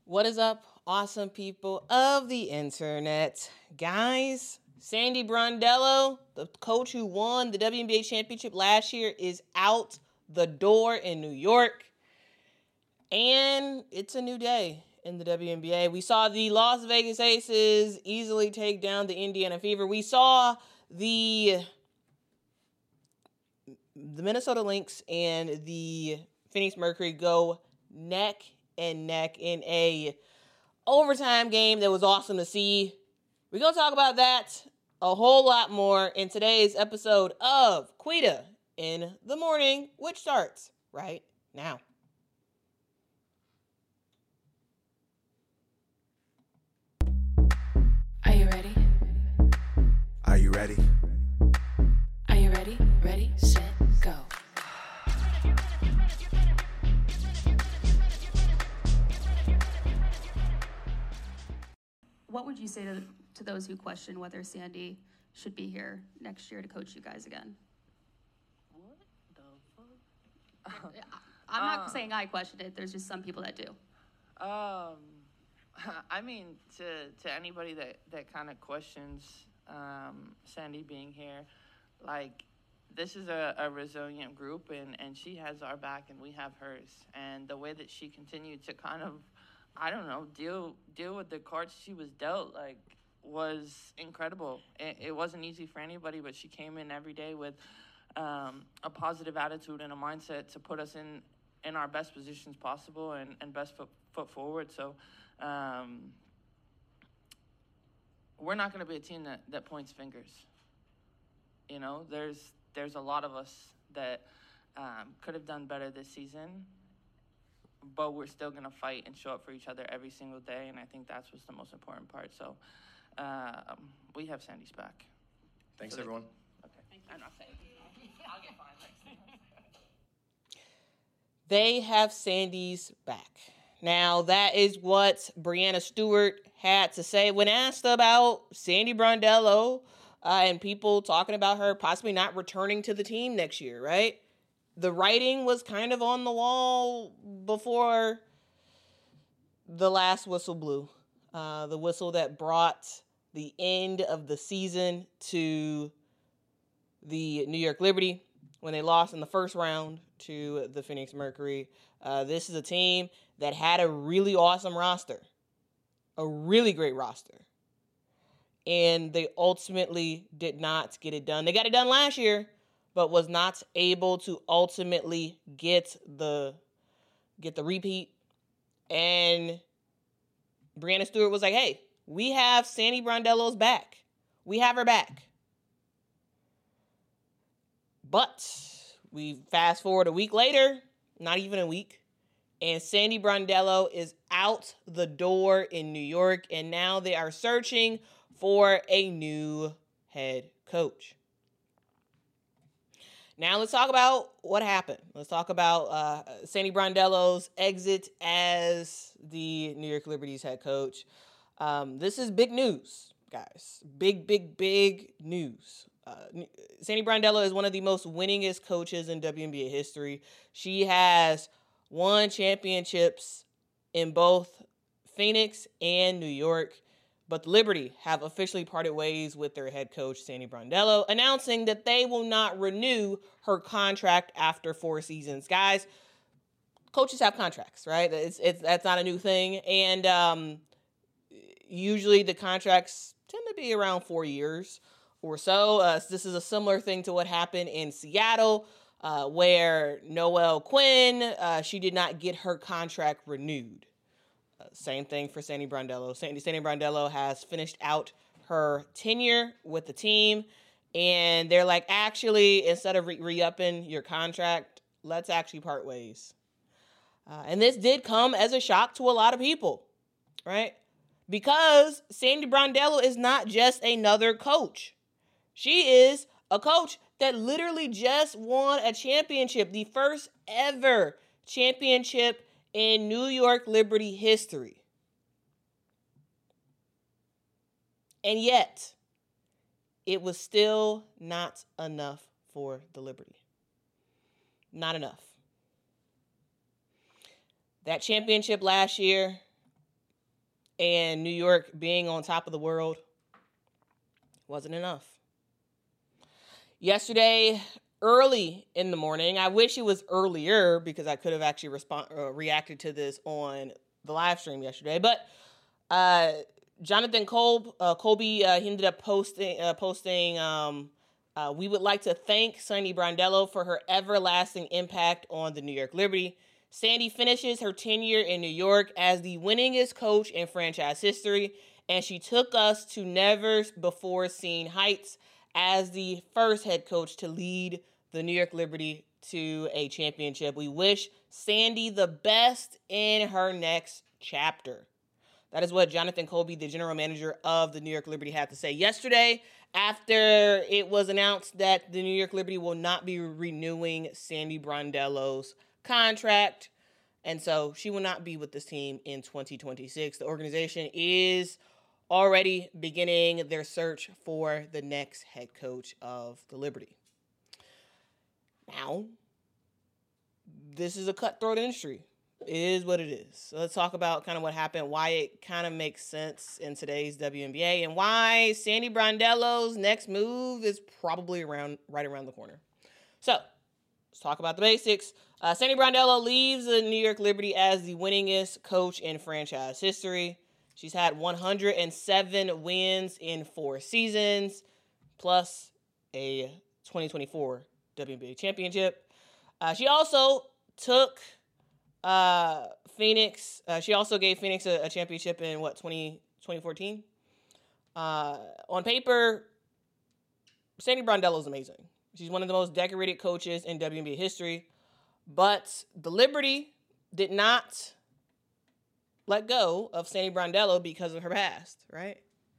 What is up, awesome people of the internet? Guys, Sandy Brondello, the coach who won the WNBA championship last year, is out the door in New York. And it's a new day in the WNBA. We saw the Las Vegas Aces easily take down the Indiana Fever. We saw the Minnesota Lynx and the Phoenix Mercury go neck and neck in a overtime game that was awesome to see. We're going to talk about that a whole lot more in today's episode of Quita in the Morning, which starts right now. Are you ready? Are you ready? Are you ready? Ready, set, go. What would you say to those who question whether Sandy should be here next year to coach you guys again? What the fuck? I'm not saying I questioned it. There's just some people that do. I mean, to anybody that kind of questions Sandy being here, like, this is a resilient group, and she has our back and we have hers. And the way that she continued to kind of, I don't know, deal with the cards she was dealt, like, was incredible. It wasn't easy for anybody, but she came in every day with a positive attitude and a mindset to put us in our best positions possible and best foot forward. So we're not going to be a team that points fingers. You know, there's a lot of us that could have done better this season, but we're still going to fight and show up for each other every single day, and I think that's what's the most important part. So we have Sandy's back. Thanks, everyone. Okay. I'm not saying I'll get fined next time. They have Sandy's back. Now, that is what Breanna Stewart had to say when asked about Sandy Brondello and people talking about her possibly not returning to the team next year, right? The writing was kind of on the wall before the last whistle blew. The whistle that brought the end of the season to the New York Liberty when they lost in the first round to the Phoenix Mercury. This is a team that had a really awesome roster, a really great roster. And they ultimately did not get it done. They got it done last year, but was not able to ultimately get the repeat. And Breanna Stewart was like, hey, we have Sandy Brondello's back. We have her back. But we fast forward a week later, not even a week, and Sandy Brondello is out the door in New York, and now they are searching for a new head coach. Now let's talk about what happened. Let's talk about Sandy Brondello's exit as the New York Liberty's head coach. This is big news, guys. Big news. Sandy Brondello is one of the most winningest coaches in WNBA history. She has won championships in both Phoenix and New York, but the Liberty have officially parted ways with their head coach, Sandy Brondello, announcing that they will not renew her contract after 4 seasons. Guys, coaches have contracts, right? That's not a new thing, and usually the contracts tend to be around 4 years or so. This is a similar thing to what happened in Seattle, where Noelle Quinn, she did not get her contract renewed. Same thing for Sandy Brondello. Sandy Brondello has finished out her tenure with the team, and they're like, actually, instead of re-upping your contract, let's actually part ways. And this did come as a shock to a lot of people, right? Because Sandy Brondello is not just another coach. She is a coach that literally just won a championship, the first ever championship in New York Liberty history. And yet, it was still not enough for the Liberty. Not enough. That championship last year and New York being on top of the world wasn't enough. Yesterday, early in the morning, I wish it was earlier because I could have actually reacted to this on the live stream yesterday. But Jonathan Colby, he ended up posting, we would like to thank Sandy Brondello for her everlasting impact on the New York Liberty. Sandy finishes her tenure in New York as the winningest coach in franchise history, and she took us to never-before-seen heights as the first head coach to lead the New York Liberty to a championship. We wish Sandy the best in her next chapter. That is what Jonathan Colby, the general manager of the New York Liberty, had to say yesterday after it was announced that the New York Liberty will not be renewing Sandy Brondello's contract. And so she will not be with this team in 2026. The organization is already beginning their search for the next head coach of the Liberty. Now, this is a cutthroat industry. It is what it is. So let's talk about kind of what happened, why it kind of makes sense in today's WNBA, and why Sandy Brondello's next move is probably right around the corner. So let's talk about the basics. Sandy Brondello leaves the New York Liberty as the winningest coach in franchise history. She's had 107 wins in 4 seasons, plus a 2024 WNBA championship. She also took Phoenix. She also gave Phoenix a championship in 2014. On paper, Sandy Brondello is amazing. She's one of the most decorated coaches in WNBA history. But the Liberty did not let go of Sandy Brondello because of her past, right?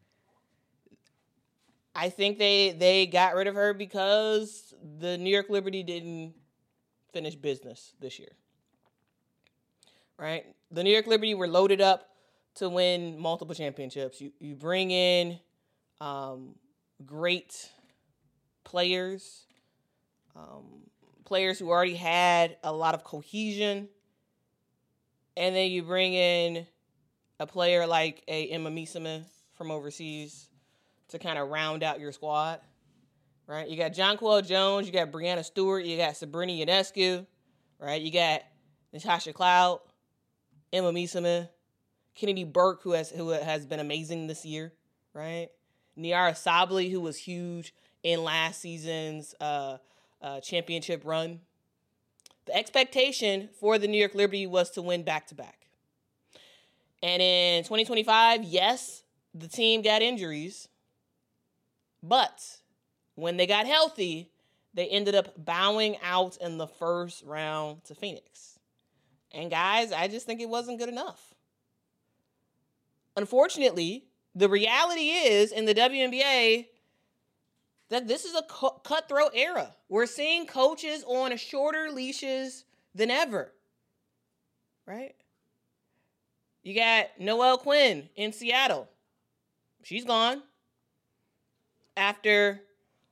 I think they got rid of her because the New York Liberty didn't finish business this year, right? The New York Liberty were loaded up to win multiple championships. You bring in great players, players who already had a lot of cohesion, and then you bring in a player like a Emma Misema from overseas to kind of round out your squad, right? You got Jonquel Jones, you got Brianna Stewart, you got Sabrina Ionescu, right? You got Natasha Cloud, Emma Misema, Kennedy Burke, who has been amazing this year, right? Niara Sabally, who was huge in last season's championship run. The expectation for the New York Liberty was to win back-to-back. And in 2025, yes, the team got injuries, but when they got healthy, they ended up bowing out in the first round to Phoenix. And guys, I just think it wasn't good enough. Unfortunately, the reality is in the WNBA that this is a cutthroat era. We're seeing coaches on shorter leashes than ever, right? You got Noelle Quinn in Seattle. She's gone. After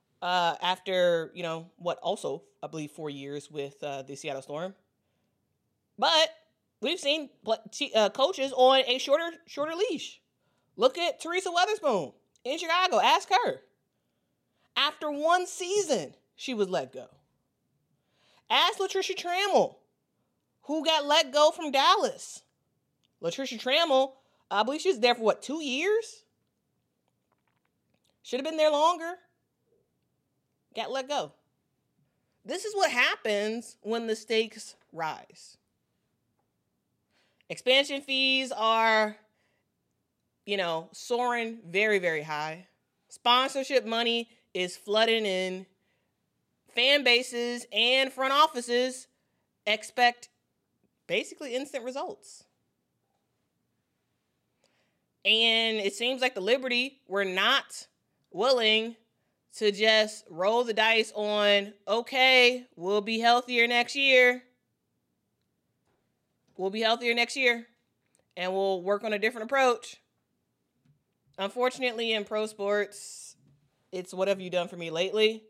also, I believe 4 years with the Seattle Storm. But we've seen coaches on a shorter leash. Look at Teresa Weatherspoon in Chicago. Ask her. After 1 season, she was let go. Ask Latricia Trammell, who got let go from Dallas. Latricia Trammell, I believe she was there for 2 years? Should have been there longer. Got let go. This is what happens when the stakes rise. Expansion fees are, soaring very, very high. Sponsorship money is flooding in. Fan bases and front offices expect basically instant results. And it seems like the Liberty were not willing to just roll the dice on, okay, we'll be healthier next year. And we'll work on a different approach. Unfortunately, in pro sports, it's what have you done for me lately?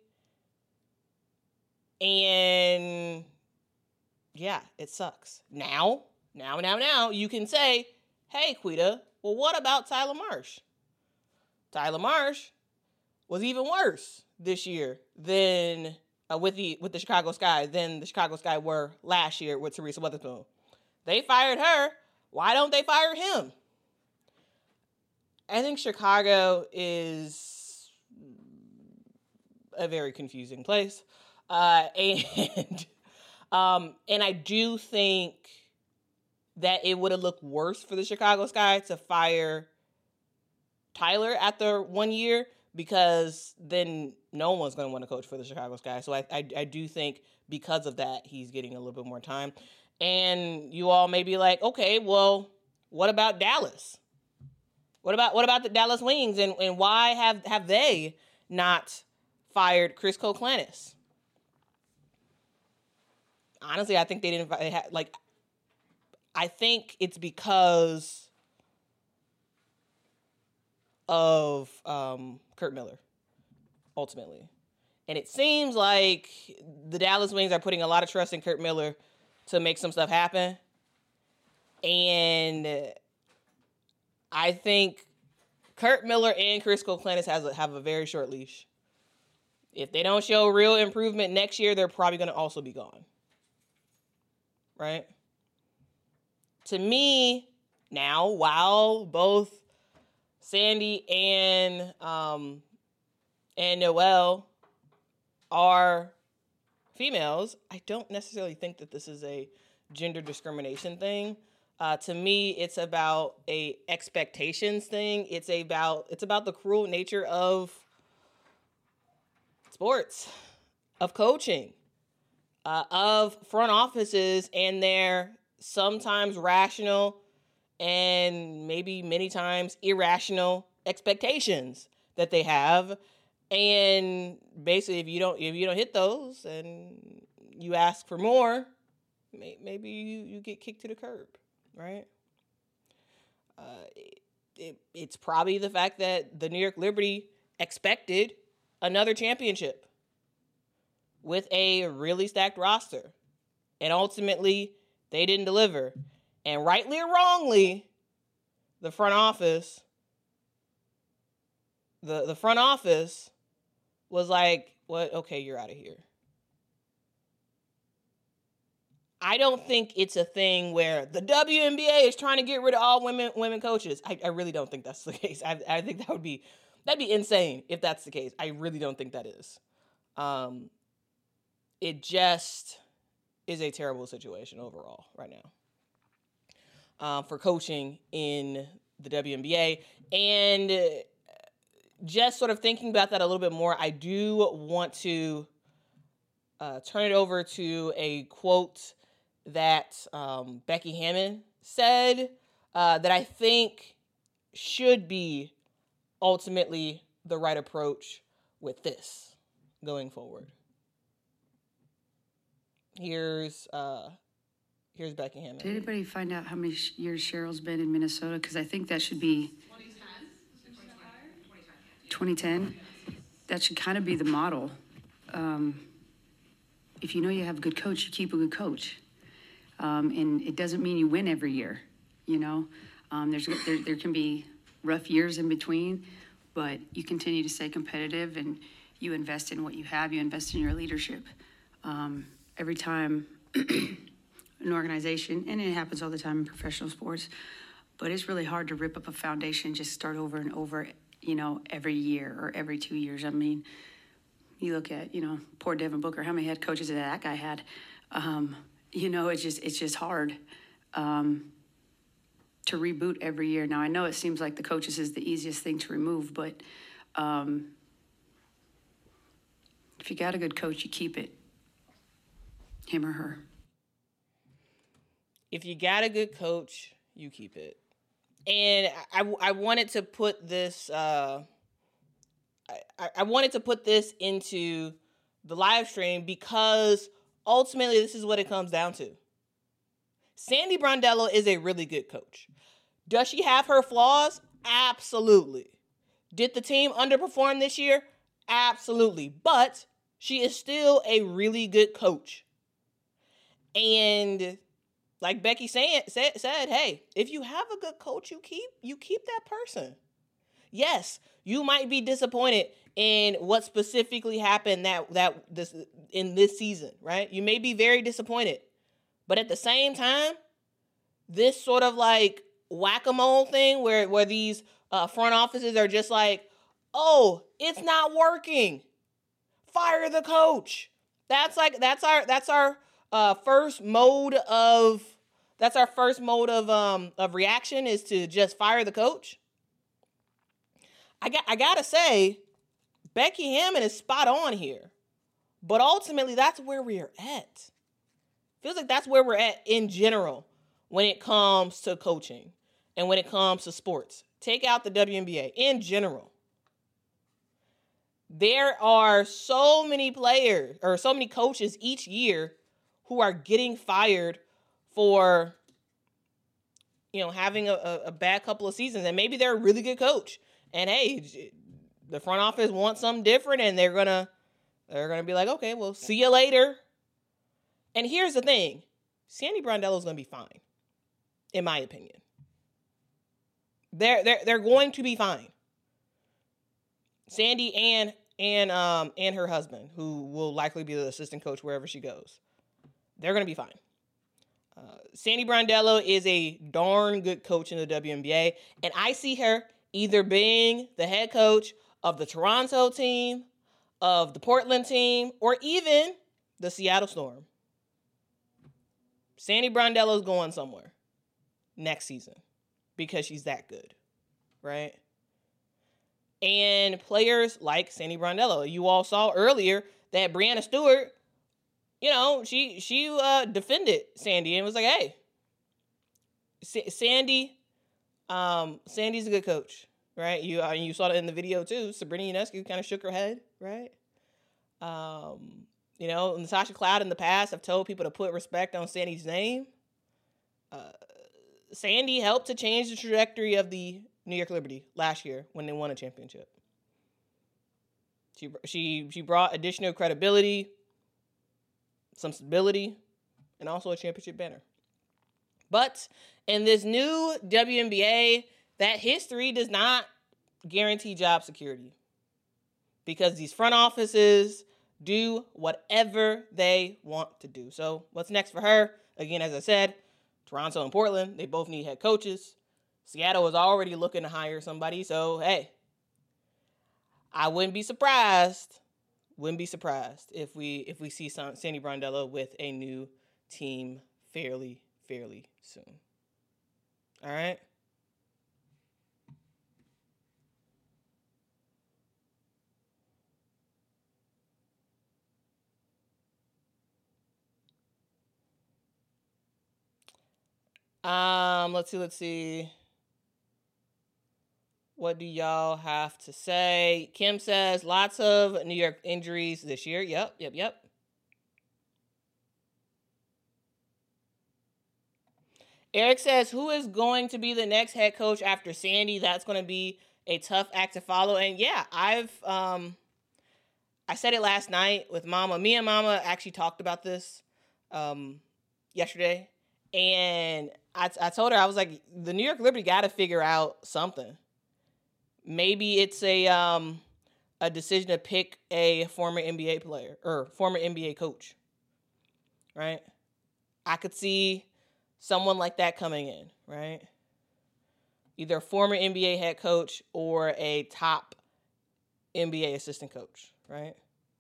And yeah, it sucks. Now, you can say, hey, Quita, Well, what about Tyler Marsh? Tyler Marsh was even worse this year than with the Chicago Sky than the Chicago Sky were last year with Teresa Weatherspoon. They fired her. Why don't they fire him? I think Chicago is a very confusing place. And I do think that it would have looked worse for the Chicago Sky to fire Tyler after 1 year, because then no one's going to want to coach for the Chicago Sky. So I do think because of that, he's getting a little bit more time. And you all may be like, okay, well, what about Dallas? What about the Dallas Wings, and why have they not fired Chris Koklanis? Honestly, I think they didn't. I think it's because of Kurt Miller, ultimately. And it seems like the Dallas Wings are putting a lot of trust in Kurt Miller to make some stuff happen. And I think Kurt Miller and Chris Koklanis have a very short leash. If they don't show real improvement next year, they're probably going to also be gone. Right? To me, now, while both Sandy and Noelle are females, I don't necessarily think that this is a gender discrimination thing. To me, it's about a expectations thing. It's about the cruel nature of sports, of coaching, of front offices and their sometimes rational and maybe many times irrational expectations that they have. And basically, if you don't hit those and you ask for more, maybe you get kicked to the curb, right? It's probably the fact that the New York Liberty expected another championship with a really stacked roster, and ultimately they didn't deliver. And rightly or wrongly, the front office, the front office was like, "What? Okay, you're out of here." I don't think it's a thing where the WNBA is trying to get rid of all women coaches. I really don't think that's the case. I think that'd be insane if that's the case. I really don't think that is. It just is a terrible situation overall right now for coaching in the WNBA. And just sort of thinking about that a little bit more, I do want to turn it over to a quote that Becky Hammon said that I think should be ultimately the right approach with this going forward. Here's Becky Hammon. Did anybody find out how many years Cheryl's been in Minnesota? Because I think that should be 2010. That should kind of be the model. If you know you have a good coach, you keep a good coach. And it doesn't mean you win every year, you know. There can be rough years in between, but you continue to stay competitive and you invest in what you have. You invest in your leadership. Every time an organization, and it happens all the time in professional sports, but it's really hard to rip up a foundation, just start over and over, you know, every year or every 2 years. I mean, you look at, you know, poor Devin Booker, how many head coaches that guy had? You know, it's just hard to reboot every year. Now, I know it seems like the coaches is the easiest thing to remove, but if you got a good coach, you keep it. Him or her. If you got a good coach, you keep it. And I wanted to put this I wanted to put this into the live stream because ultimately this is what it comes down to. Sandy Brondello is a really good coach. Does she have her flaws? Absolutely. Did the team underperform this year? Absolutely. But she is still a really good coach. And like Becky said, hey, if you have a good coach, you keep that person. Yes, you might be disappointed in what specifically happened in this season, right? You may be very disappointed. But at the same time, this sort of like whack-a-mole thing where these front offices are just like, oh, it's not working, fire the coach. That's our first mode of reaction, is to just fire the coach. I gotta say, Becky Hammon is spot on here, but ultimately that's where we're at. Feels like that's where we're at in general when it comes to coaching and when it comes to sports. Take out the WNBA in general. There are so many players or so many coaches each year who are getting fired for, having a bad couple of seasons. And maybe they're a really good coach. And hey, the front office wants something different, and they're gonna be like, okay, well, see you later. And here's the thing. Sandy Brondello's going to be fine, in my opinion. They're going to be fine. Sandy and her husband, who will likely be the assistant coach wherever she goes, they're going to be fine. Sandy Brondello is a darn good coach in the WNBA, and I see her either being the head coach of the Toronto team, of the Portland team, or even the Seattle Storm. Sandy Brondello's going somewhere next season because she's that good, right? And players like Sandy Brondello, you all saw earlier that Breanna Stewart, she defended Sandy and was like, hey, Sandy's a good coach, right? You saw that in the video too. Sabrina Ionescu kind of shook her head, right? Natasha Cloud in the past have told people to put respect on Sandy's name. Sandy helped to change the trajectory of the New York Liberty last year when they won a championship. She brought additional credibility, some stability, and also a championship banner. But in this new WNBA, that history does not guarantee job security, because these front offices do whatever they want to do. So what's next for her? Again, as I said, Toronto and Portland, they both need head coaches. Seattle is already looking to hire somebody. So, hey, I wouldn't be surprised if we see Sandy Brondello with a new team fairly soon. All right? Let's see. What do y'all have to say? Kim says lots of New York injuries this year. Yep. Eric says, who is going to be the next head coach after Sandy? That's going to be a tough act to follow. And yeah, I said it last night with Mama. Me and Mama actually talked about this yesterday. And I told her, I was like, the New York Liberty got to figure out something. Maybe it's a decision to pick a former NBA player or former NBA coach, right? I could see someone like that coming in, right? Either a former NBA head coach or a top NBA assistant coach, right?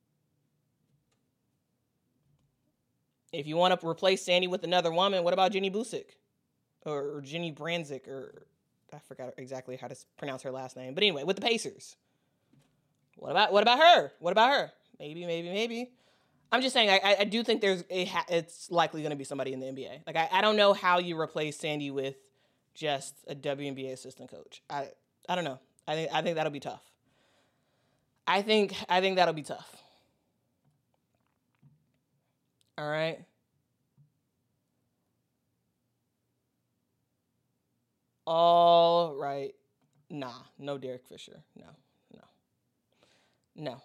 If you want to replace Sandy with another woman, what about Jenny Busick? Or Jenny Branzik, or I forgot exactly how to pronounce her last name. But anyway, with the Pacers. What about her? What about her? Maybe. I'm just saying, I do think it's likely going to be somebody in the NBA. Like, I don't know how you replace Sandy with just a WNBA assistant coach. I don't know. I think that'll be tough. I think that'll be tough. All right. All right. Nah, no Derek Fisher. No.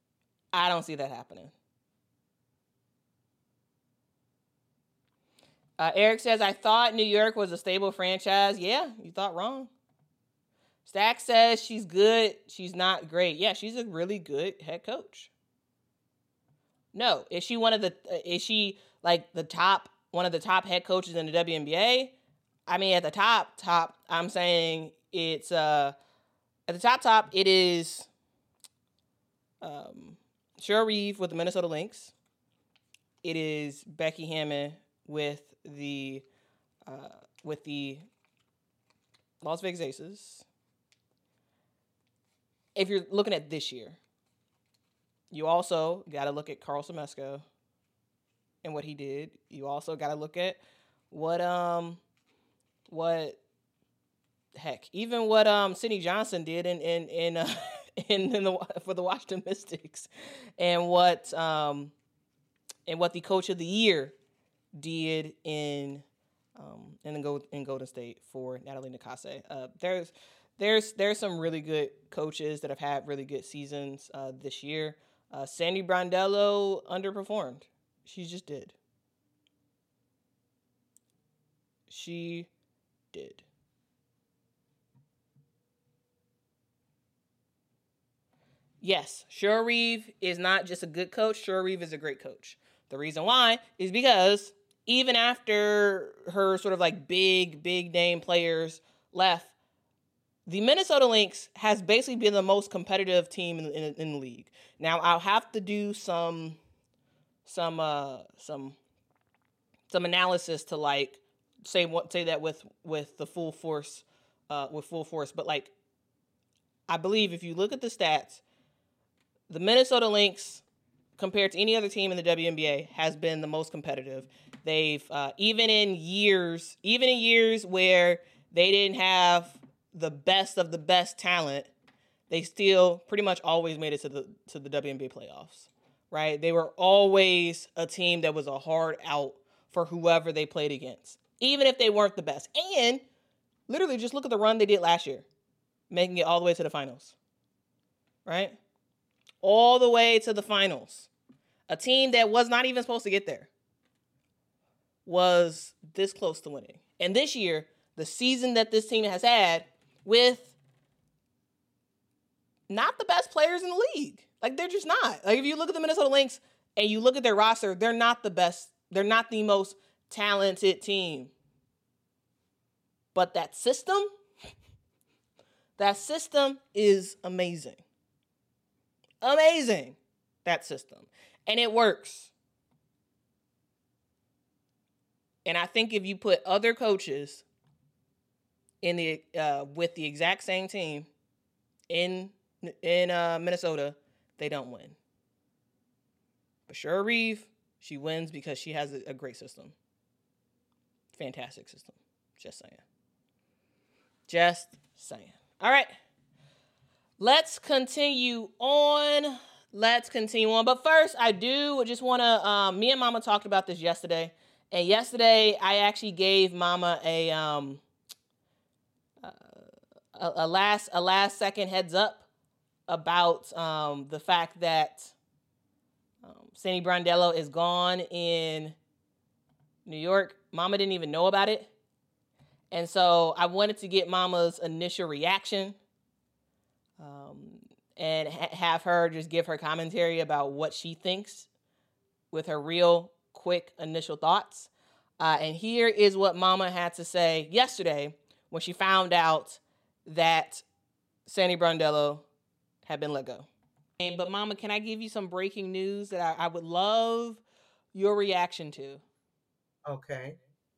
I don't see that happening. Eric says, I thought New York was a stable franchise. Yeah, you thought wrong. Stack says she's good. She's not great. Yeah, she's a really good head coach. No, is she one of the? Is she like one of the top head coaches in the WNBA? I mean, at the top, I'm saying it's at the top. It is Cheryl Reeve with the Minnesota Lynx. It is Becky Hammon with the Las Vegas Aces. If you're looking at this year, you also got to look at Carl Semesco and what he did. You also got to look at what Sydney Johnson did for the Washington Mystics, and what the Coach of the Year did in Golden State for Natalie Nakase. There's some really good coaches that have had really good seasons this year. Sandy Brondello underperformed. She just did. She did. Yes, Cheryl Reeve is not just a good coach. Cheryl Reeve is a great coach. The reason why is because even after her sort of like big name players left, the Minnesota Lynx has basically been the most competitive team in the league. Now I'll have to do some analysis to like say that with the full force, but like I believe if you look at the stats, the Minnesota Lynx compared to any other team in the WNBA has been the most competitive. They've even in years where they didn't have the best of the best talent, they still pretty much always made it to the WNBA playoffs, right? They were always a team that was a hard out for whoever they played against, even if they weren't the best. And literally just look at the run they did last year, making it all the way to the finals, right? All the way to the finals. A team that was not even supposed to get there was this close to winning. And this year, the season that this team has had with not the best players in the league. Like, they're just not. Like, if you look at the Minnesota Lynx and you look at their roster, they're not the best. They're not the most talented team. But that system is amazing. Amazing, that system. And it works. And I think if you put other coaches in the with the exact same team in Minnesota, they don't win. But Cheryl Reeve, she wins because she has a great system. Fantastic system. Just saying. All right. Let's continue on. But first, I do just want to, me and Mama talked about this yesterday. And yesterday, I actually gave Mama a last second heads up about the fact that Sandy Brondello is gone in New York. Mama didn't even know about it. And so I wanted to get Mama's initial reaction and have her just give her commentary about what she thinks with her real quick initial thoughts. And here is what Mama had to say yesterday when she found out that Sandy Brondello had been let go. But Mama, can I give you some breaking news that I would love your reaction to? Okay.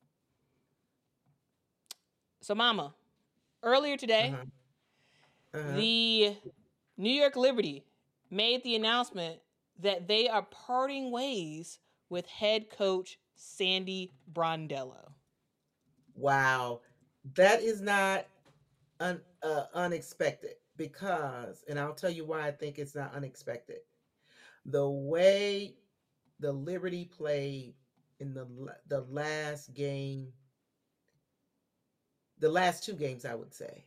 So Mama, earlier today, the New York Liberty made the announcement that they are parting ways with head coach Sandy Brondello. Wow. That is not unexpected because, and I'll tell you why I think it's not unexpected. The way the Liberty played in the last game, the last two games, I would say.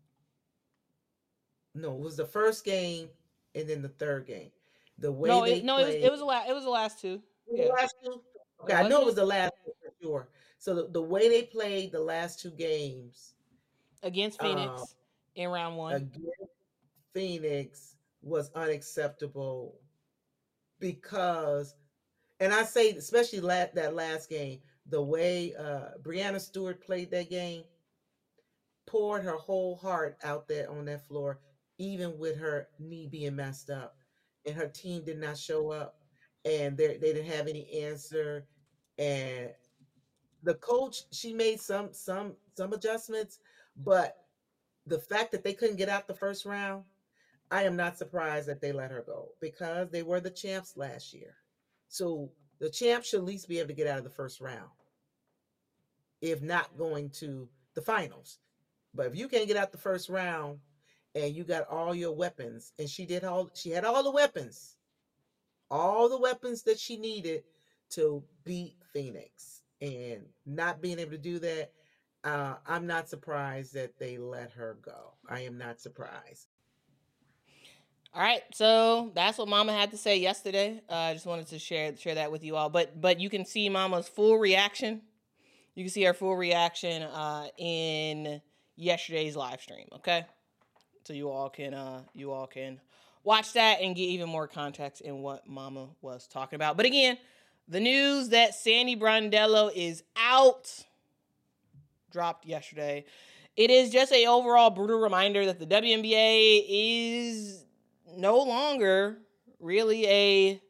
No, it was the first game and then the third game. The way it was the last two. Yeah. The last two? Okay, I know it was the last two for sure. So the way they played the last two games Against Phoenix in round one. against Phoenix was unacceptable because, and I say especially that last game, the way Brianna Stewart played that game, poured her whole heart out there on that floor, even with her knee being messed up, and her team did not show up, and they didn't have any answer, and the coach, she made some adjustments, but the fact that they couldn't get out the first round, I am not surprised that they let her go because they were the champs last year. So the champs should at least be able to get out of the first round, if not going to the finals. But if you can't get out the first round and you got all your weapons, and she had all the weapons, that she needed to beat Phoenix, and not being able to do that, I'm not surprised that they let her go. I am not surprised. All right, so that's what Mama had to say yesterday. I just wanted to share that with you all. But you can see Mama's full reaction. You can see her full reaction in yesterday's live stream. Okay, so you all can watch that and get even more context in what Mama was talking about. But again, the news that Sandy Brondello is out dropped yesterday. It is just a overall brutal reminder that the WNBA is no longer really a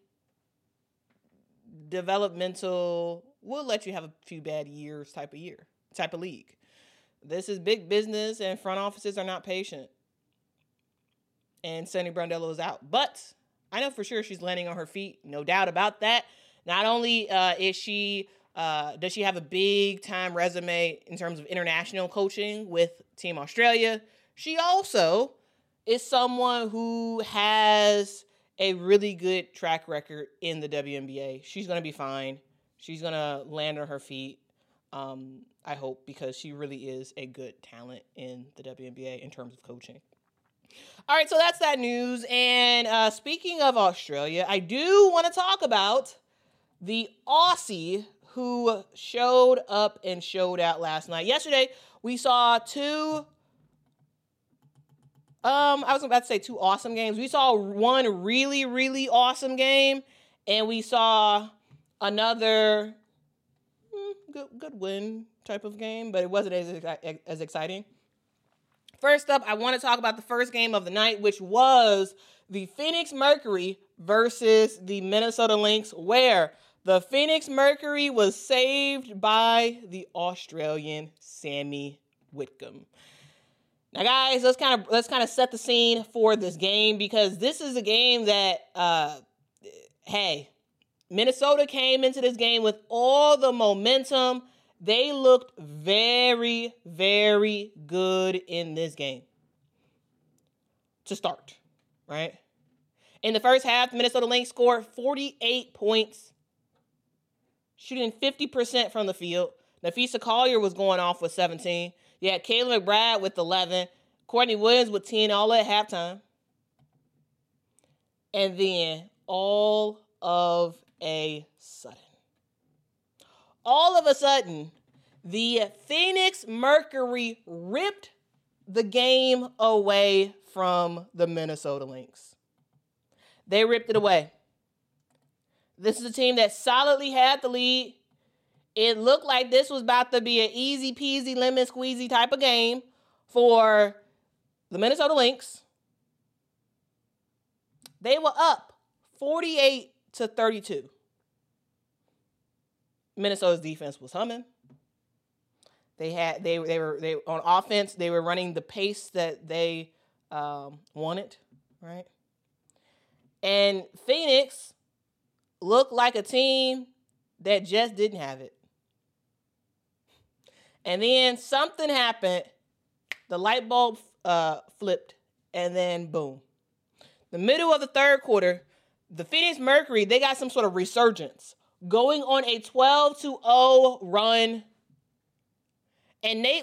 developmental, we'll let you have a few bad years type of league. This is big business, and front offices are not patient. And Sandy Brondello is out. But I know for sure she's landing on her feet, no doubt about that. Not only does she have a big time resume in terms of international coaching with Team Australia, she also is someone who has a really good track record in the WNBA. She's going to be fine. She's going to land on her feet, I hope, because she really is a good talent in the WNBA in terms of coaching. All right, so that's that news. And speaking of Australia, I do want to talk about the Aussie who showed up and showed out last night. Yesterday, we saw two awesome games. We saw one really, really awesome game, and we saw another good win type of game, but it wasn't as exciting. First up, I want to talk about the first game of the night, which was the Phoenix Mercury versus the Minnesota Lynx, where the Phoenix Mercury was saved by the Australian Sammy Whitcomb. Now, guys, let's kind of set the scene for this game, because this is a game that, Minnesota came into this game with all the momentum. They looked very, very good in this game to start, right? In the first half, the Minnesota Lynx scored 48 points, shooting 50% from the field. Nafisa Collier was going off with 17. You had Kayla McBride with 11. Courtney Williams with 10, all at halftime. And then all of a sudden, the Phoenix Mercury ripped the game away from the Minnesota Lynx. They ripped it away. This is a team that solidly had the lead. It looked like this was about to be an easy peasy lemon squeezy type of game for the Minnesota Lynx. They were up 48-32. Minnesota's defense was humming. They were on offense. They were running the pace that they wanted, right? And Phoenix looked like a team that just didn't have it. And then something happened. The light bulb flipped, and then boom. The middle of the third quarter, the Phoenix Mercury, they got some sort of resurgence, going on a 12-0 run. And Nate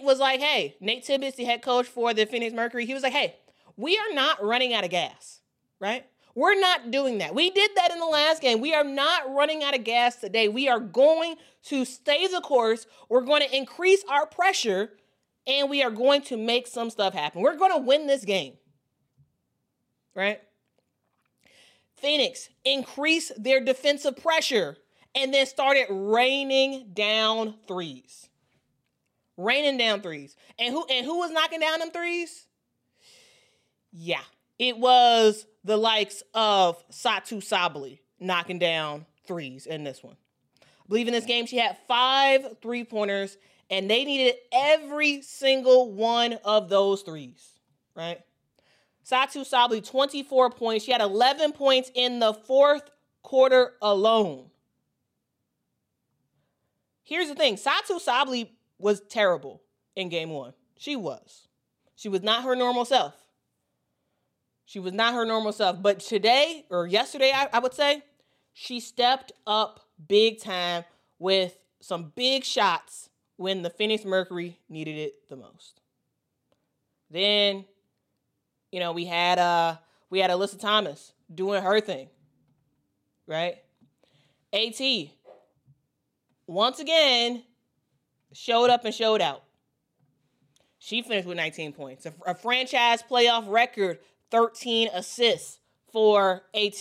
Tibbetts, the head coach for the Phoenix Mercury, he was like, hey, we are not running out of gas, right? We're not doing that. We did that in the last game. We are not running out of gas today. We are going to stay the course. We're going to increase our pressure, and we are going to make some stuff happen. We're going to win this game, right? Phoenix increased their defensive pressure and then started raining down threes. Raining down threes. And who was knocking down them threes? Yeah, it was the likes of Satou Sabally knocking down threes in this one. I believe in this game she had 5 3-pointers, and they needed every single one of those threes, right? Satou Sabally, 24 points. She had 11 points in the fourth quarter alone. Here's the thing. Satou Sabally was terrible in game 1. She was. She was not her normal self. She was not her normal self. But today, or yesterday, I would say, she stepped up big time with some big shots when the Phoenix Mercury needed it the most. Then, we had Alyssa Thomas doing her thing, right? AT, once again, showed up and showed out. She finished with 19 points. A franchise playoff record, 13 assists for AT.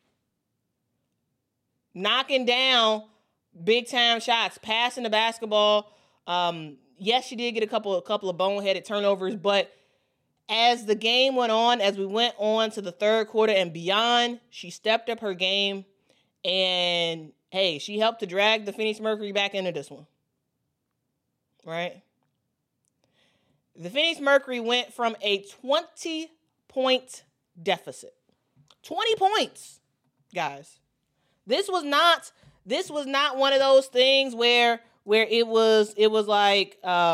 Knocking down big-time shots, passing the basketball. Yes, she did get a couple of boneheaded turnovers, but as the game went on, as we went on to the third quarter and beyond, she stepped up her game, and, hey, she helped to drag the Phoenix Mercury back into this one, right? The Phoenix Mercury went from a 20-point deficit. 20 points, guys. This was not one of those things where it was like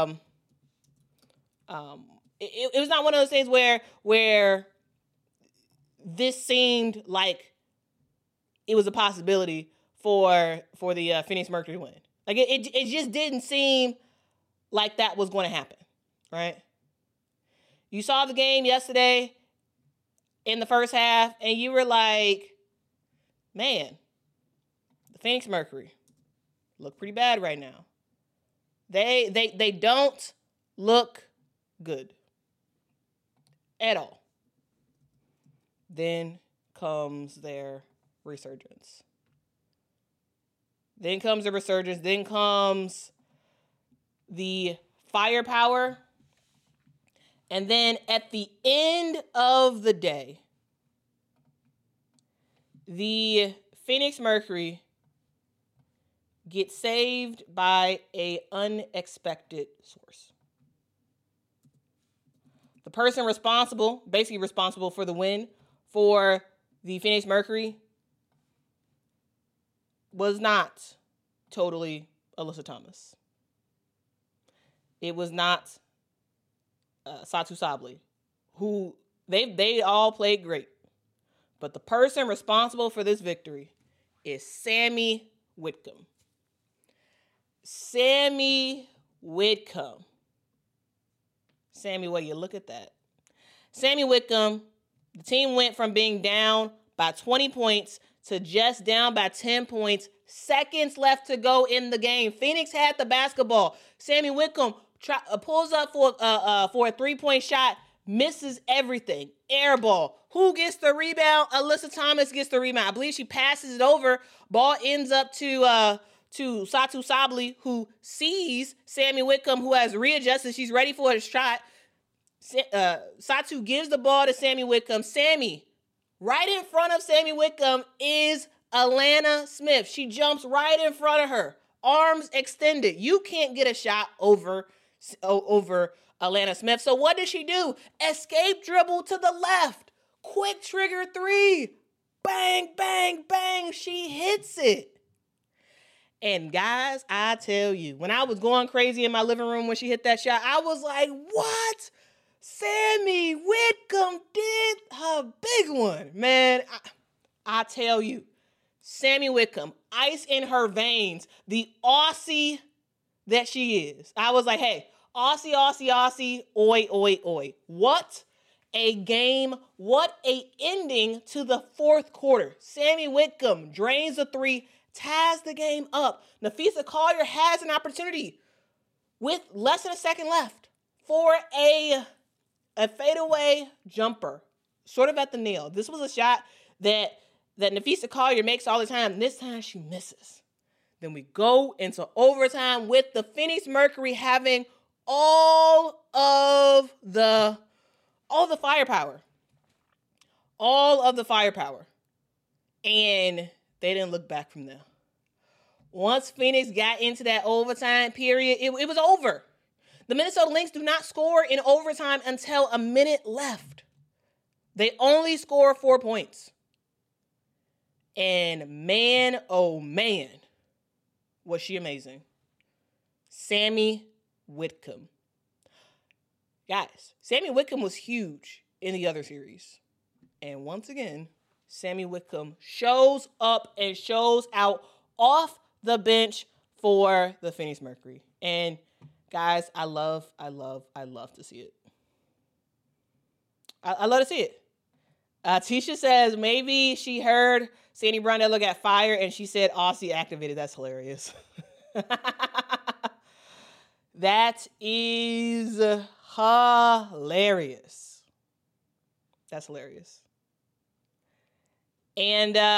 it was not one of those things where this seemed like it was a possibility for the Phoenix Mercury win. Like it just didn't seem like that was going to happen, right? You saw the game yesterday in the first half, and you were like, man, the Phoenix Mercury look pretty bad right now. They don't look good at all. Then comes their resurgence. Then comes the firepower. And then at the end of the day, the Phoenix Mercury get saved by an unexpected source. The person basically responsible for the win for the Phoenix Mercury was not totally Alyssa Thomas. It was not Satou Sabally, who they all played great. But the person responsible for this victory is Sammy Whitcomb. Sammy Whitcomb. Sammy, well, you look at that. Sammy Whitcomb, the team went from being down by 20 points to just down by 10 points. Seconds left to go in the game. Phoenix had the basketball. Sammy Whitcomb pulls up for a 3-point shot, misses everything. Air ball. Who gets the rebound? Alyssa Thomas gets the rebound. I believe she passes it over. Ball ends up to Satou Sabally, who sees Sammy Whitcomb, who has readjusted. She's ready for a shot. Satou gives the ball to Sammy Whitcomb. Sammy, right in front of Sammy Whitcomb is Alana Smith. She jumps right in front of her. Arms extended. You can't get a shot over Alana Smith. So what does she do? Escape dribble to the left. Quick trigger 3. Bang, bang, bang. She hits it. And guys, I tell you, when I was going crazy in my living room when she hit that shot, I was like, what? Sammy Whitcomb did her big one. Man, I tell you, Sammy Whitcomb, ice in her veins, the Aussie that she is. I was like, hey, Aussie, Aussie, Aussie, oi, oi, oi. What a game. What a ending to the fourth quarter. Sammy Whitcomb drains the three, ties the game up. Napheesa Collier has an opportunity with less than a second left for a fadeaway jumper, sort of at the nail. This was a shot that Napheesa Collier makes all the time. This time she misses. Then we go into overtime with the Phoenix Mercury having all of the firepower. All of the firepower. And they didn't look back from there. Once Phoenix got into that overtime period, it was over. The Minnesota Lynx do not score in overtime until a minute left. They only score 4 points. And man, oh man, was she amazing. Sammy Whitcomb. Guys, Sammy Whitcomb was huge in the other series. And once again, Sammy Whitcomb shows up and shows out off the bench for the Phoenix Mercury. And guys, I love to see it. I love to see it. Tisha says maybe she heard Sandy Brondello got fired and she said Aussie activated. That's hilarious. That is hilarious. That's hilarious. And we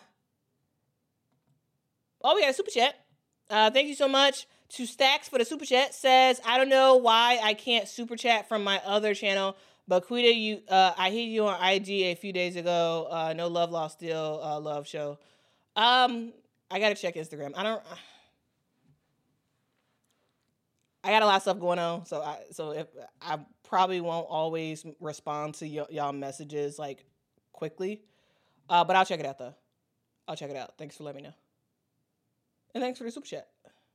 got a super chat. Thank you so much to Stacks for the super chat. Says, I don't know why I can't super chat from my other channel, but Quita, I hit you on IG a few days ago. No love lost, still love show. I gotta check Instagram. I got a lot of stuff going on, so if I probably won't always respond to y'all messages like quickly, but I'll check it out though. I'll check it out. Thanks for letting me know, and thanks for the super chat.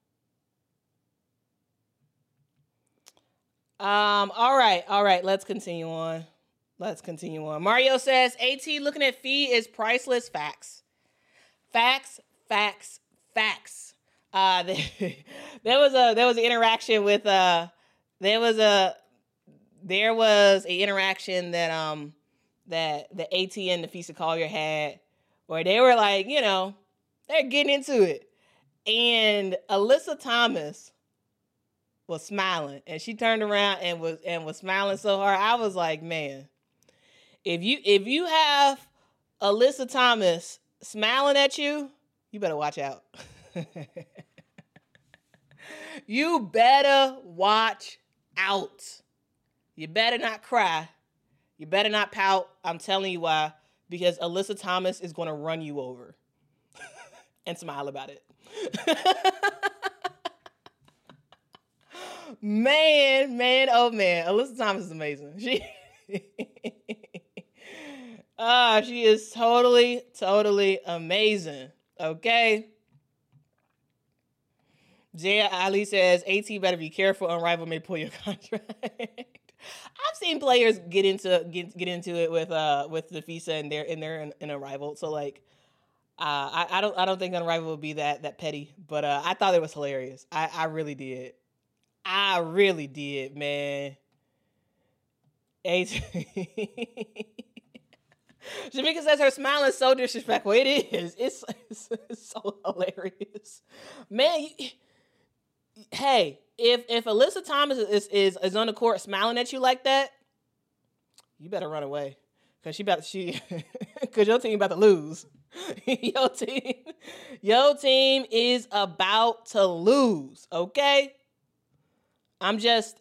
All right. Let's continue on. Mario says, AT looking at Fee is priceless. Facts. There was an interaction with there was a interaction that the AT and Napheesa Collier had where they were like, they're getting into it, and Alyssa Thomas was smiling, and she turned around and was smiling so hard. I was like, man, if you have Alyssa Thomas smiling at you, you better watch out. You better watch out. You better not cry. You better not pout. I'm telling you why. Because Alyssa Thomas is going to run you over and smile about it. Man, oh man. Alyssa Thomas is amazing. She is totally amazing. Okay. Jaya Ali says, AT better be careful. Unrivaled may pull your contract. I've seen players get into it with Napheesa and they're in Unrivaled. So like, I don't think Unrivaled would be that petty. But I thought it was hilarious. I really did. Man. AT. Shamika says her smile is so disrespectful. It is. It's so hilarious. Man, hey, if Alyssa Thomas is on the court smiling at you like that, you better run away. Cause cause your team about to lose. Your team is about to lose, okay? I'm just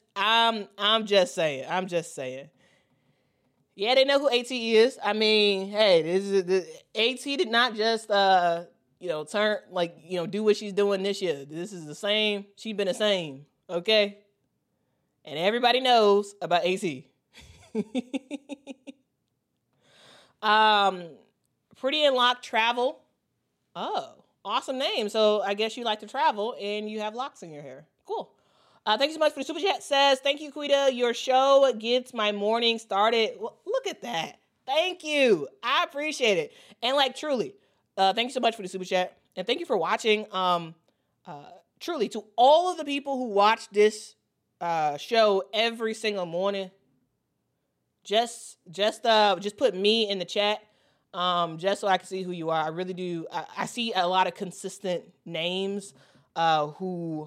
saying. Yeah, they know who AT is. I mean, hey, AT did not just turn do what she's doing this year. This is the same. She's been the same, okay? And everybody knows about AT. Pretty and Lock Travel. Oh, awesome name. So I guess you like to travel and you have locks in your hair. Cool. Thank you so much for the super chat. Says, thank you, Quita. Your show gets my morning started. Well, look at that. Thank you. I appreciate it. And like, truly, thank you so much for the super chat. And thank you for watching. Truly, to all of the people who watch this show every single morning, just put me in the chat, just so I can see who you are. I really do. I see a lot of consistent names, who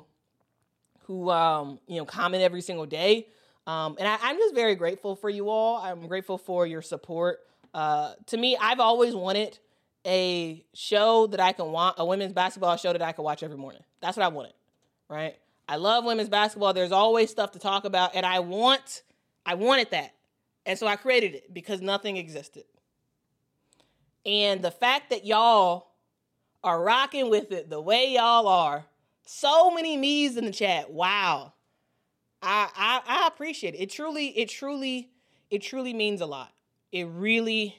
comment every single day. And I'm just very grateful for you all. I'm grateful for your support. To me, I've always wanted a show that I can watch, a women's basketball show that I can watch every morning. That's what I wanted, right? I love women's basketball. There's always stuff to talk about, and I wanted that. And so I created it because nothing existed. And the fact that y'all are rocking with it the way y'all are, so many me's in the chat. Wow. I appreciate it. It truly means a lot. It really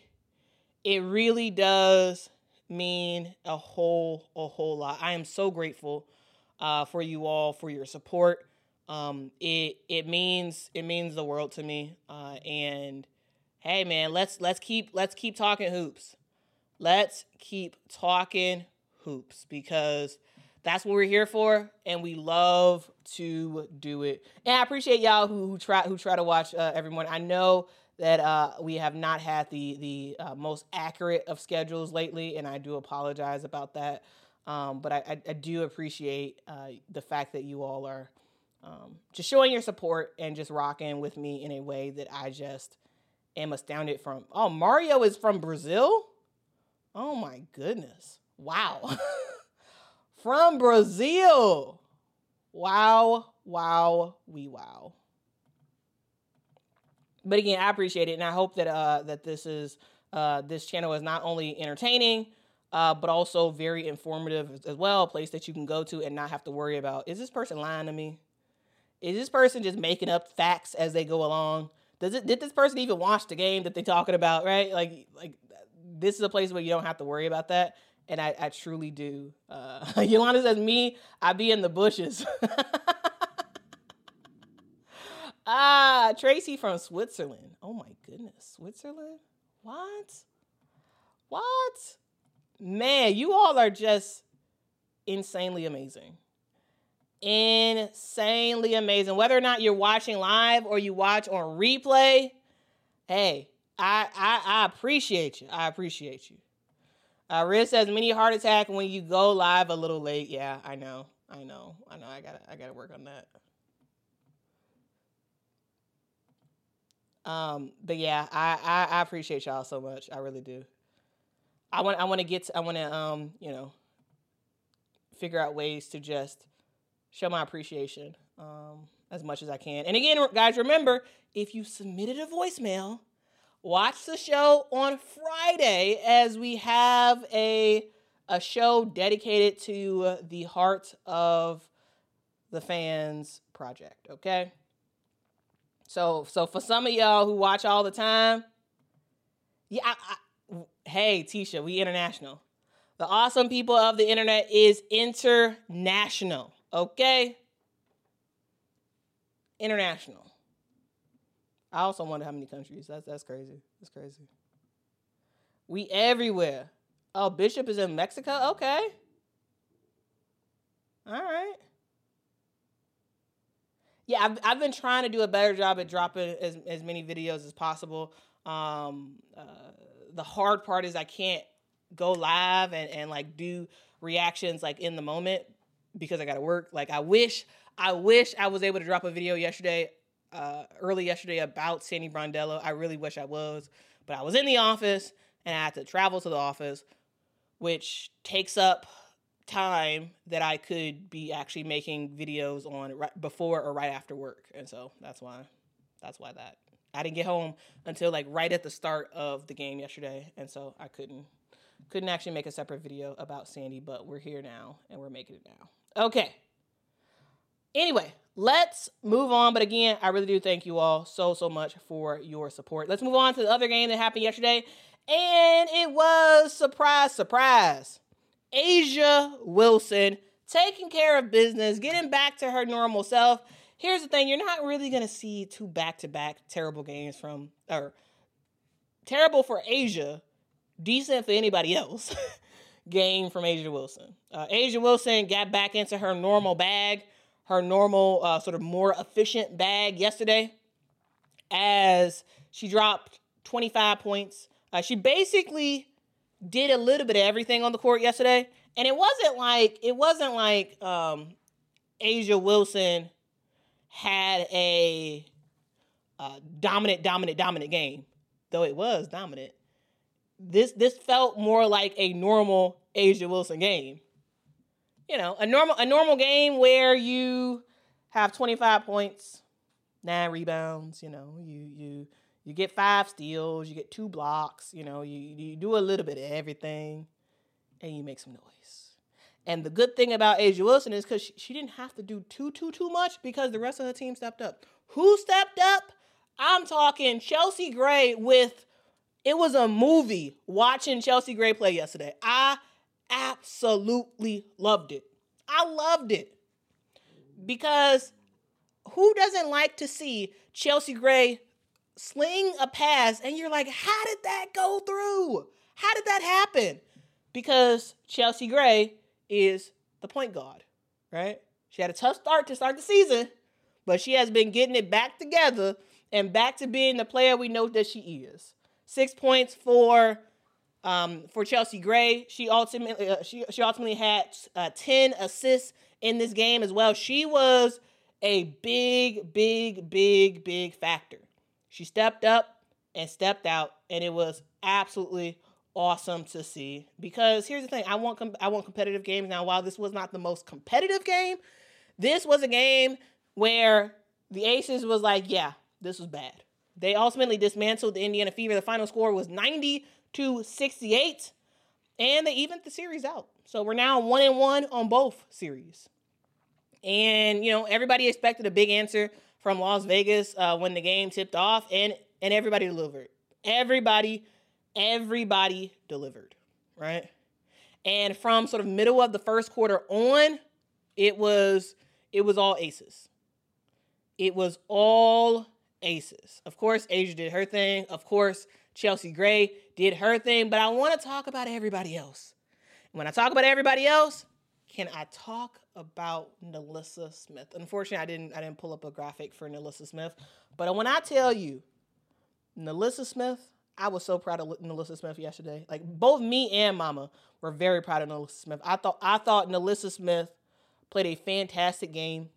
does mean a whole lot. I am so grateful for you all, for your support. It means the world to me. And hey man, let's keep talking hoops. Let's keep talking hoops, because that's what we're here for, and we love to do it. And I appreciate y'all who try to watch every morning. I know that we have not had the most accurate of schedules lately, and I do apologize about that. But I do appreciate the fact that you all are just showing your support and just rocking with me in a way that I just am astounded from. Oh, Mario is from Brazil? Oh my goodness. Wow. From Brazil. Wow. Wow. But again, I appreciate it, and I hope that that this channel is not only entertaining, but also very informative as well. A place that you can go to and not have to worry about, is this person lying to me? Is this person just making up facts as they go along? Did this person even watch the game that they're talking about? Right? Like this is a place where you don't have to worry about that. And I truly do. Yolanda says, me, I be in the bushes. Tracy from Switzerland. Oh my goodness. Switzerland? What? Man, you all are just insanely amazing. Insanely amazing. Whether or not you're watching live or you watch on replay, hey, I appreciate you. I appreciate you. Riz says, mini heart attack when you go live a little late. Yeah, I know. I gotta work on that. But yeah, I appreciate y'all so much. I really do. I want to figure out ways to just show my appreciation as much as I can. And again, guys, remember, if you submitted a voicemail, watch the show on Friday, as we have a show dedicated to the Heart of the Fans project, okay? So for some of y'all who watch all the time, yeah, hey, Tisha, we international. The awesome people of the internet is international, okay? International. I also wonder how many countries. That's crazy. That's crazy. We everywhere. Oh, Bishop is in Mexico? Okay. All right. Yeah, I've been trying to do a better job at dropping as many videos as possible. The hard part is I can't go live and like do reactions like in the moment because I gotta work. Like I wish I was able to drop a video early yesterday about Sandy Brondello. I really wish I was, but I was in the office and I had to travel to the office, which takes up time that I could be actually making videos on right before or right after work. And so that's why that I didn't get home until like right at the start of the game yesterday. And so I couldn't actually make a separate video about Sandy, but we're here now and we're making it now. Okay. Anyway, let's move on. But again, I really do thank you all so much for your support. Let's move on to the other game that happened yesterday. And it was, surprise, A'ja Wilson taking care of business, getting back to her normal self. Here's the thing. You're not really going to see two back-to-back terrible games terrible for A'ja, decent for anybody else, game from A'ja Wilson. A'ja Wilson got back into her normal bag, her normal sort of more efficient bag yesterday. as she dropped 25 points. She basically did a little bit of everything on the court yesterday. And it wasn't like A'ja Wilson had a dominant game, though it was dominant. This felt more like a normal A'ja Wilson game. You know, a normal game where you have 25 points, 9 rebounds, you know, you get 5 steals, you get 2 blocks, you know, you do a little bit of everything, and you make some noise. And the good thing about A'ja Wilson is because she didn't have to do too much because the rest of her team stepped up. Who stepped up? I'm talking Chelsea Gray it was a movie watching Chelsea Gray play yesterday. I absolutely loved it. I loved it. Because who doesn't like to see Chelsea Gray sling a pass and you're like, how did that go through? How did that happen? Because Chelsea Gray is the point guard, right? She had a tough start to start the season, but she has been getting it back together and back to being the player we know that she is. 6 points for Chelsea Gray. She ultimately had 10 assists in this game as well. She was a big factor. She stepped up and stepped out, and it was absolutely awesome to see. Because here's the thing, I want competitive games. Now, while this was not the most competitive game, this was a game where the Aces was like, yeah, this was bad. They ultimately dismantled the Indiana Fever. The final score was 90-68, and they evened the series out. So we're now 1-1 on both series. And, you know, everybody expected a big answer from Las Vegas when the game tipped off, and everybody delivered. Everybody delivered, right? And from sort of middle of the first quarter on, it was all aces. It was all aces. Of course, A'ja did her thing. Of course, Chelsea Gray did her thing. But I want to talk about everybody else. When I talk about everybody else, can I talk about NaLyssa Smith? Unfortunately, I didn't pull up a graphic for NaLyssa Smith. But when I tell you, NaLyssa Smith, I was so proud of NaLyssa Smith yesterday. Like, both me and Mama were very proud of NaLyssa Smith. I thought NaLyssa Smith played a fantastic game.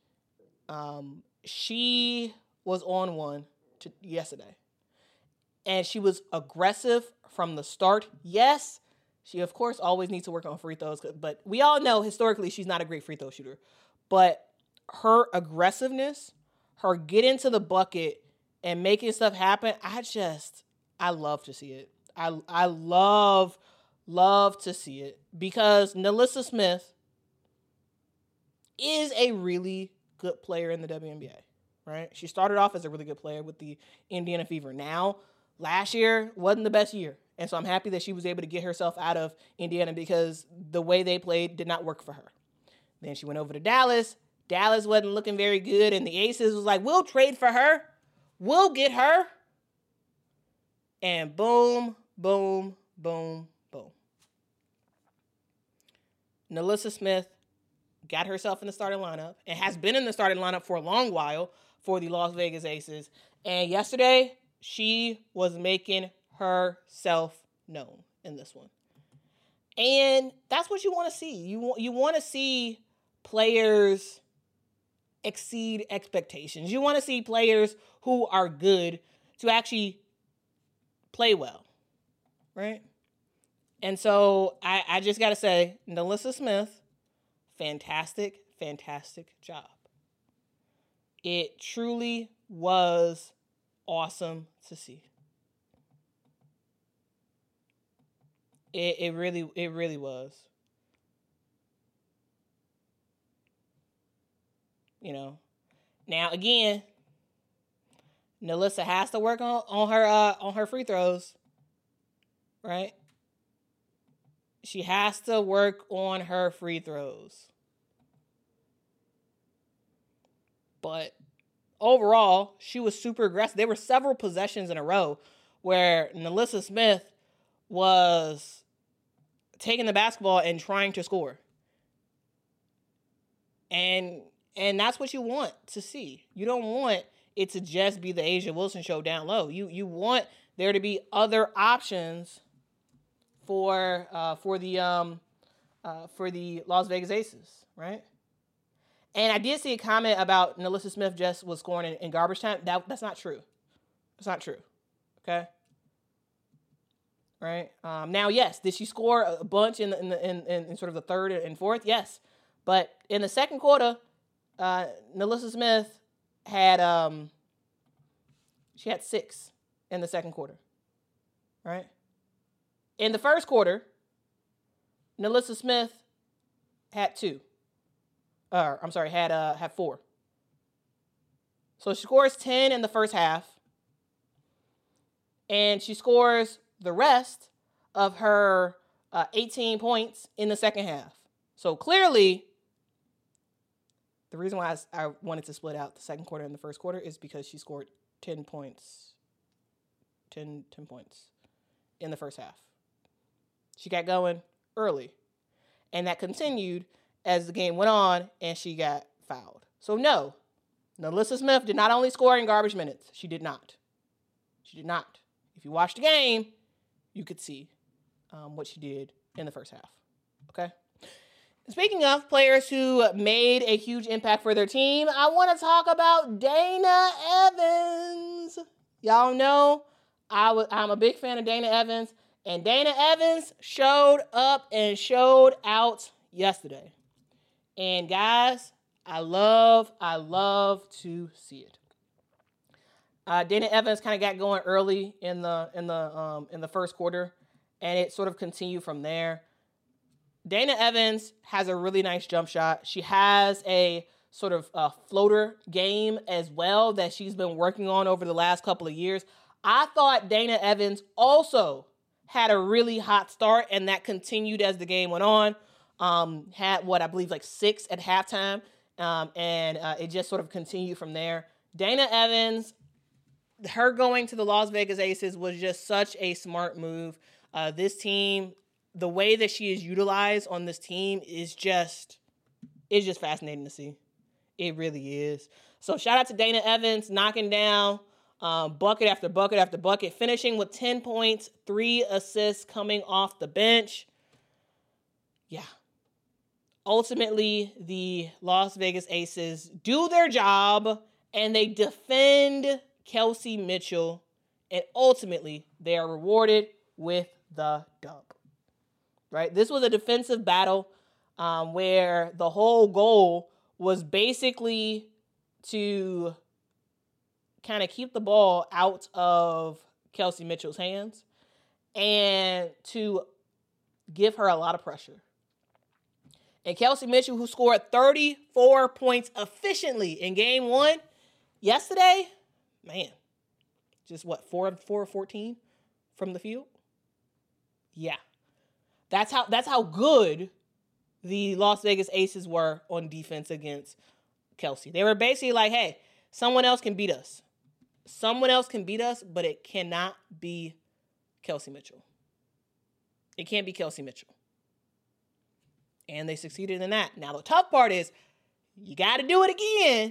She was on one yesterday. And she was aggressive from the start. Yes, she, of course, always needs to work on free throws. But we all know, historically, she's not a great free throw shooter. But her aggressiveness, her getting to the bucket and making stuff happen, I love to see it. I love to see it. Because NaLyssa Smith is a really good player in the WNBA, right? She started off as a really good player with the Indiana Fever. Now, last year wasn't the best year. And so I'm happy that she was able to get herself out of Indiana because the way they played did not work for her. Then she went over to Dallas. Dallas wasn't looking very good. And the Aces was like, we'll trade for her. We'll get her. And boom, boom, boom, boom. NaLyssa Smith got herself in the starting lineup and has been in the starting lineup for a long while for the Las Vegas Aces. And yesterday, she was making herself known in this one. And that's what you want to see. You want to see players exceed expectations. You want to see players who are good to actually play well, right? And so I just got to say, NaLyssa Smith, fantastic job. It truly was awesome to see. It really was. You know. Now again, NaLyssa has to work on her free throws. Right? She has to work on her free throws. But overall, she was super aggressive. There were several possessions in a row where NaLyssa Smith was taking the basketball and trying to score. And that's what you want to see. You don't want it to just be the A'ja Wilson show down low. You want there to be other options for the Las Vegas Aces, right? And I did see a comment about NaLyssa Smith just was scoring in garbage time. That's not true. That's not true. Okay. Right. Now, yes, did she score a bunch in sort of the third and fourth? Yes, but in the second quarter, NaLyssa Smith had she had 6 in the second quarter. Right. In the first quarter, NaLyssa Smith had 2. Had 4. So she scores 10 in the first half, and she scores the rest of her 18 points in the second half. So clearly, the reason why I wanted to split out the second quarter and the first quarter is because she scored 10 points. 10 points in the first half. She got going early, and that continued as the game went on and she got fouled. So no, NaLyssa Smith did not only score in garbage minutes. She did not. She did not. If you watched the game, you could see what she did in the first half. Okay? Speaking of players who made a huge impact for their team, I want to talk about Dana Evans. Y'all know I'm a big fan of Dana Evans, and Dana Evans showed up and showed out yesterday. And guys, I love to see it. Dana Evans kind of got going early in the first quarter, and it sort of continued from there. Dana Evans has a really nice jump shot. She has a sort of floater game as well that she's been working on over the last couple of years. I thought Dana Evans also had a really hot start, and that continued as the game went on. Had I believe 6 at halftime, and it just sort of continued from there. Dana Evans, her going to the Las Vegas Aces was just such a smart move. This team, the way that she is utilized on this team is just fascinating to see. It really is. So shout out to Dana Evans knocking down bucket after bucket after bucket, finishing with 10 points, 3 assists coming off the bench. Yeah. Ultimately, the Las Vegas Aces do their job and they defend Kelsey Mitchell, and ultimately they are rewarded with the dub. Right? This was a defensive battle where the whole goal was basically to kind of keep the ball out of Kelsey Mitchell's hands and to give her a lot of pressure. And Kelsey Mitchell, who scored 34 points efficiently in game 1 yesterday, man, just 4 of 14 from the field? Yeah. That's how good the Las Vegas Aces were on defense against Kelsey. They were basically like, hey, someone else can beat us. Someone else can beat us, but it cannot be Kelsey Mitchell. It can't be Kelsey Mitchell. And they succeeded in that. Now, the tough part is you got to do it again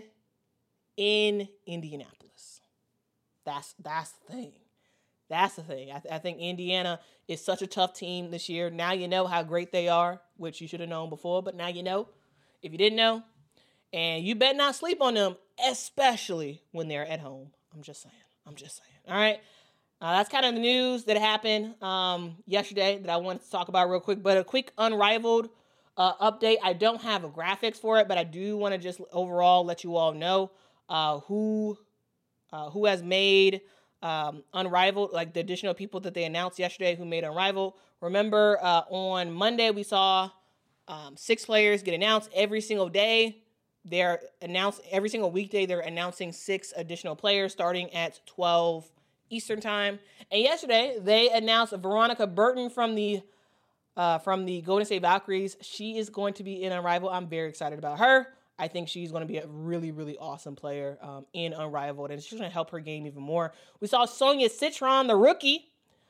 in Indianapolis. That's the thing. That's the thing. I think Indiana is such a tough team this year. Now you know how great they are, which you should have known before, but now you know. If you didn't know, and you better not sleep on them, especially when they're at home. I'm just saying. All right. That's kind of the news that happened yesterday that I wanted to talk about real quick, but a quick Unrivaled update. I don't have graphics for it, but I do want to just overall let you all know who has made Unrivaled, like the additional people that they announced yesterday who made Unrivaled. Remember, on Monday we saw 6 players get announced every single day. They're announced every single weekday. They're announcing 6 additional players starting at 12 Eastern time. And yesterday they announced Veronica Burton from the Golden State Valkyries. She is going to be in Unrivaled. I'm very excited about her. I think she's going to be a really, really awesome player in Unrivaled, and she's going to help her game even more. We saw Sonia Citron, the rookie,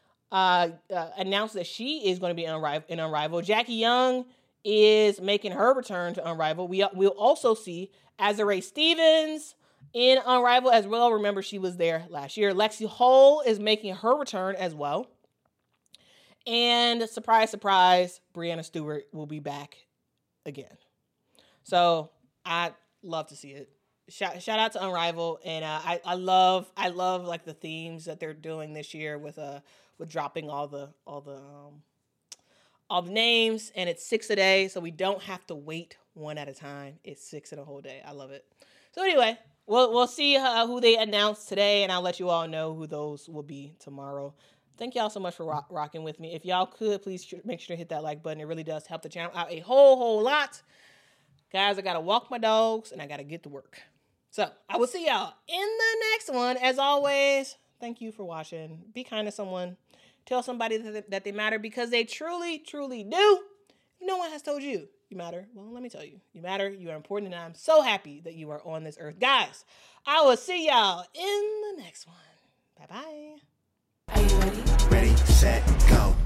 announce that she is going to be in Unrivaled. Jackie Young is making her return to Unrivaled. We'll also see Azurá Stevens in Unrivaled as well. Remember, she was there last year. Lexi Hull is making her return as well. And surprise, surprise, Brianna Stewart will be back again. So I love to see it. Shout out to Unrivaled, and I love like the themes that they're doing this year with dropping all the names, and it's 6 a day, so we don't have to wait one at a time. It's 6 in a whole day. I love it. So anyway, we'll see who they announce today, and I'll let you all know who those will be tomorrow. Thank y'all so much for rocking with me. If y'all could, please make sure to hit that like button. It really does help the channel out a whole lot. Guys, I got to walk my dogs, and I got to get to work. So I will see y'all in the next one. As always, thank you for watching. Be kind to someone. Tell somebody that they matter, because they truly, truly do. No one has told you you matter. Well, let me tell you. You matter. You are important, and I'm so happy that you are on this earth. Guys, I will see y'all in the next one. Bye-bye. Are you ready? Ready, set, go.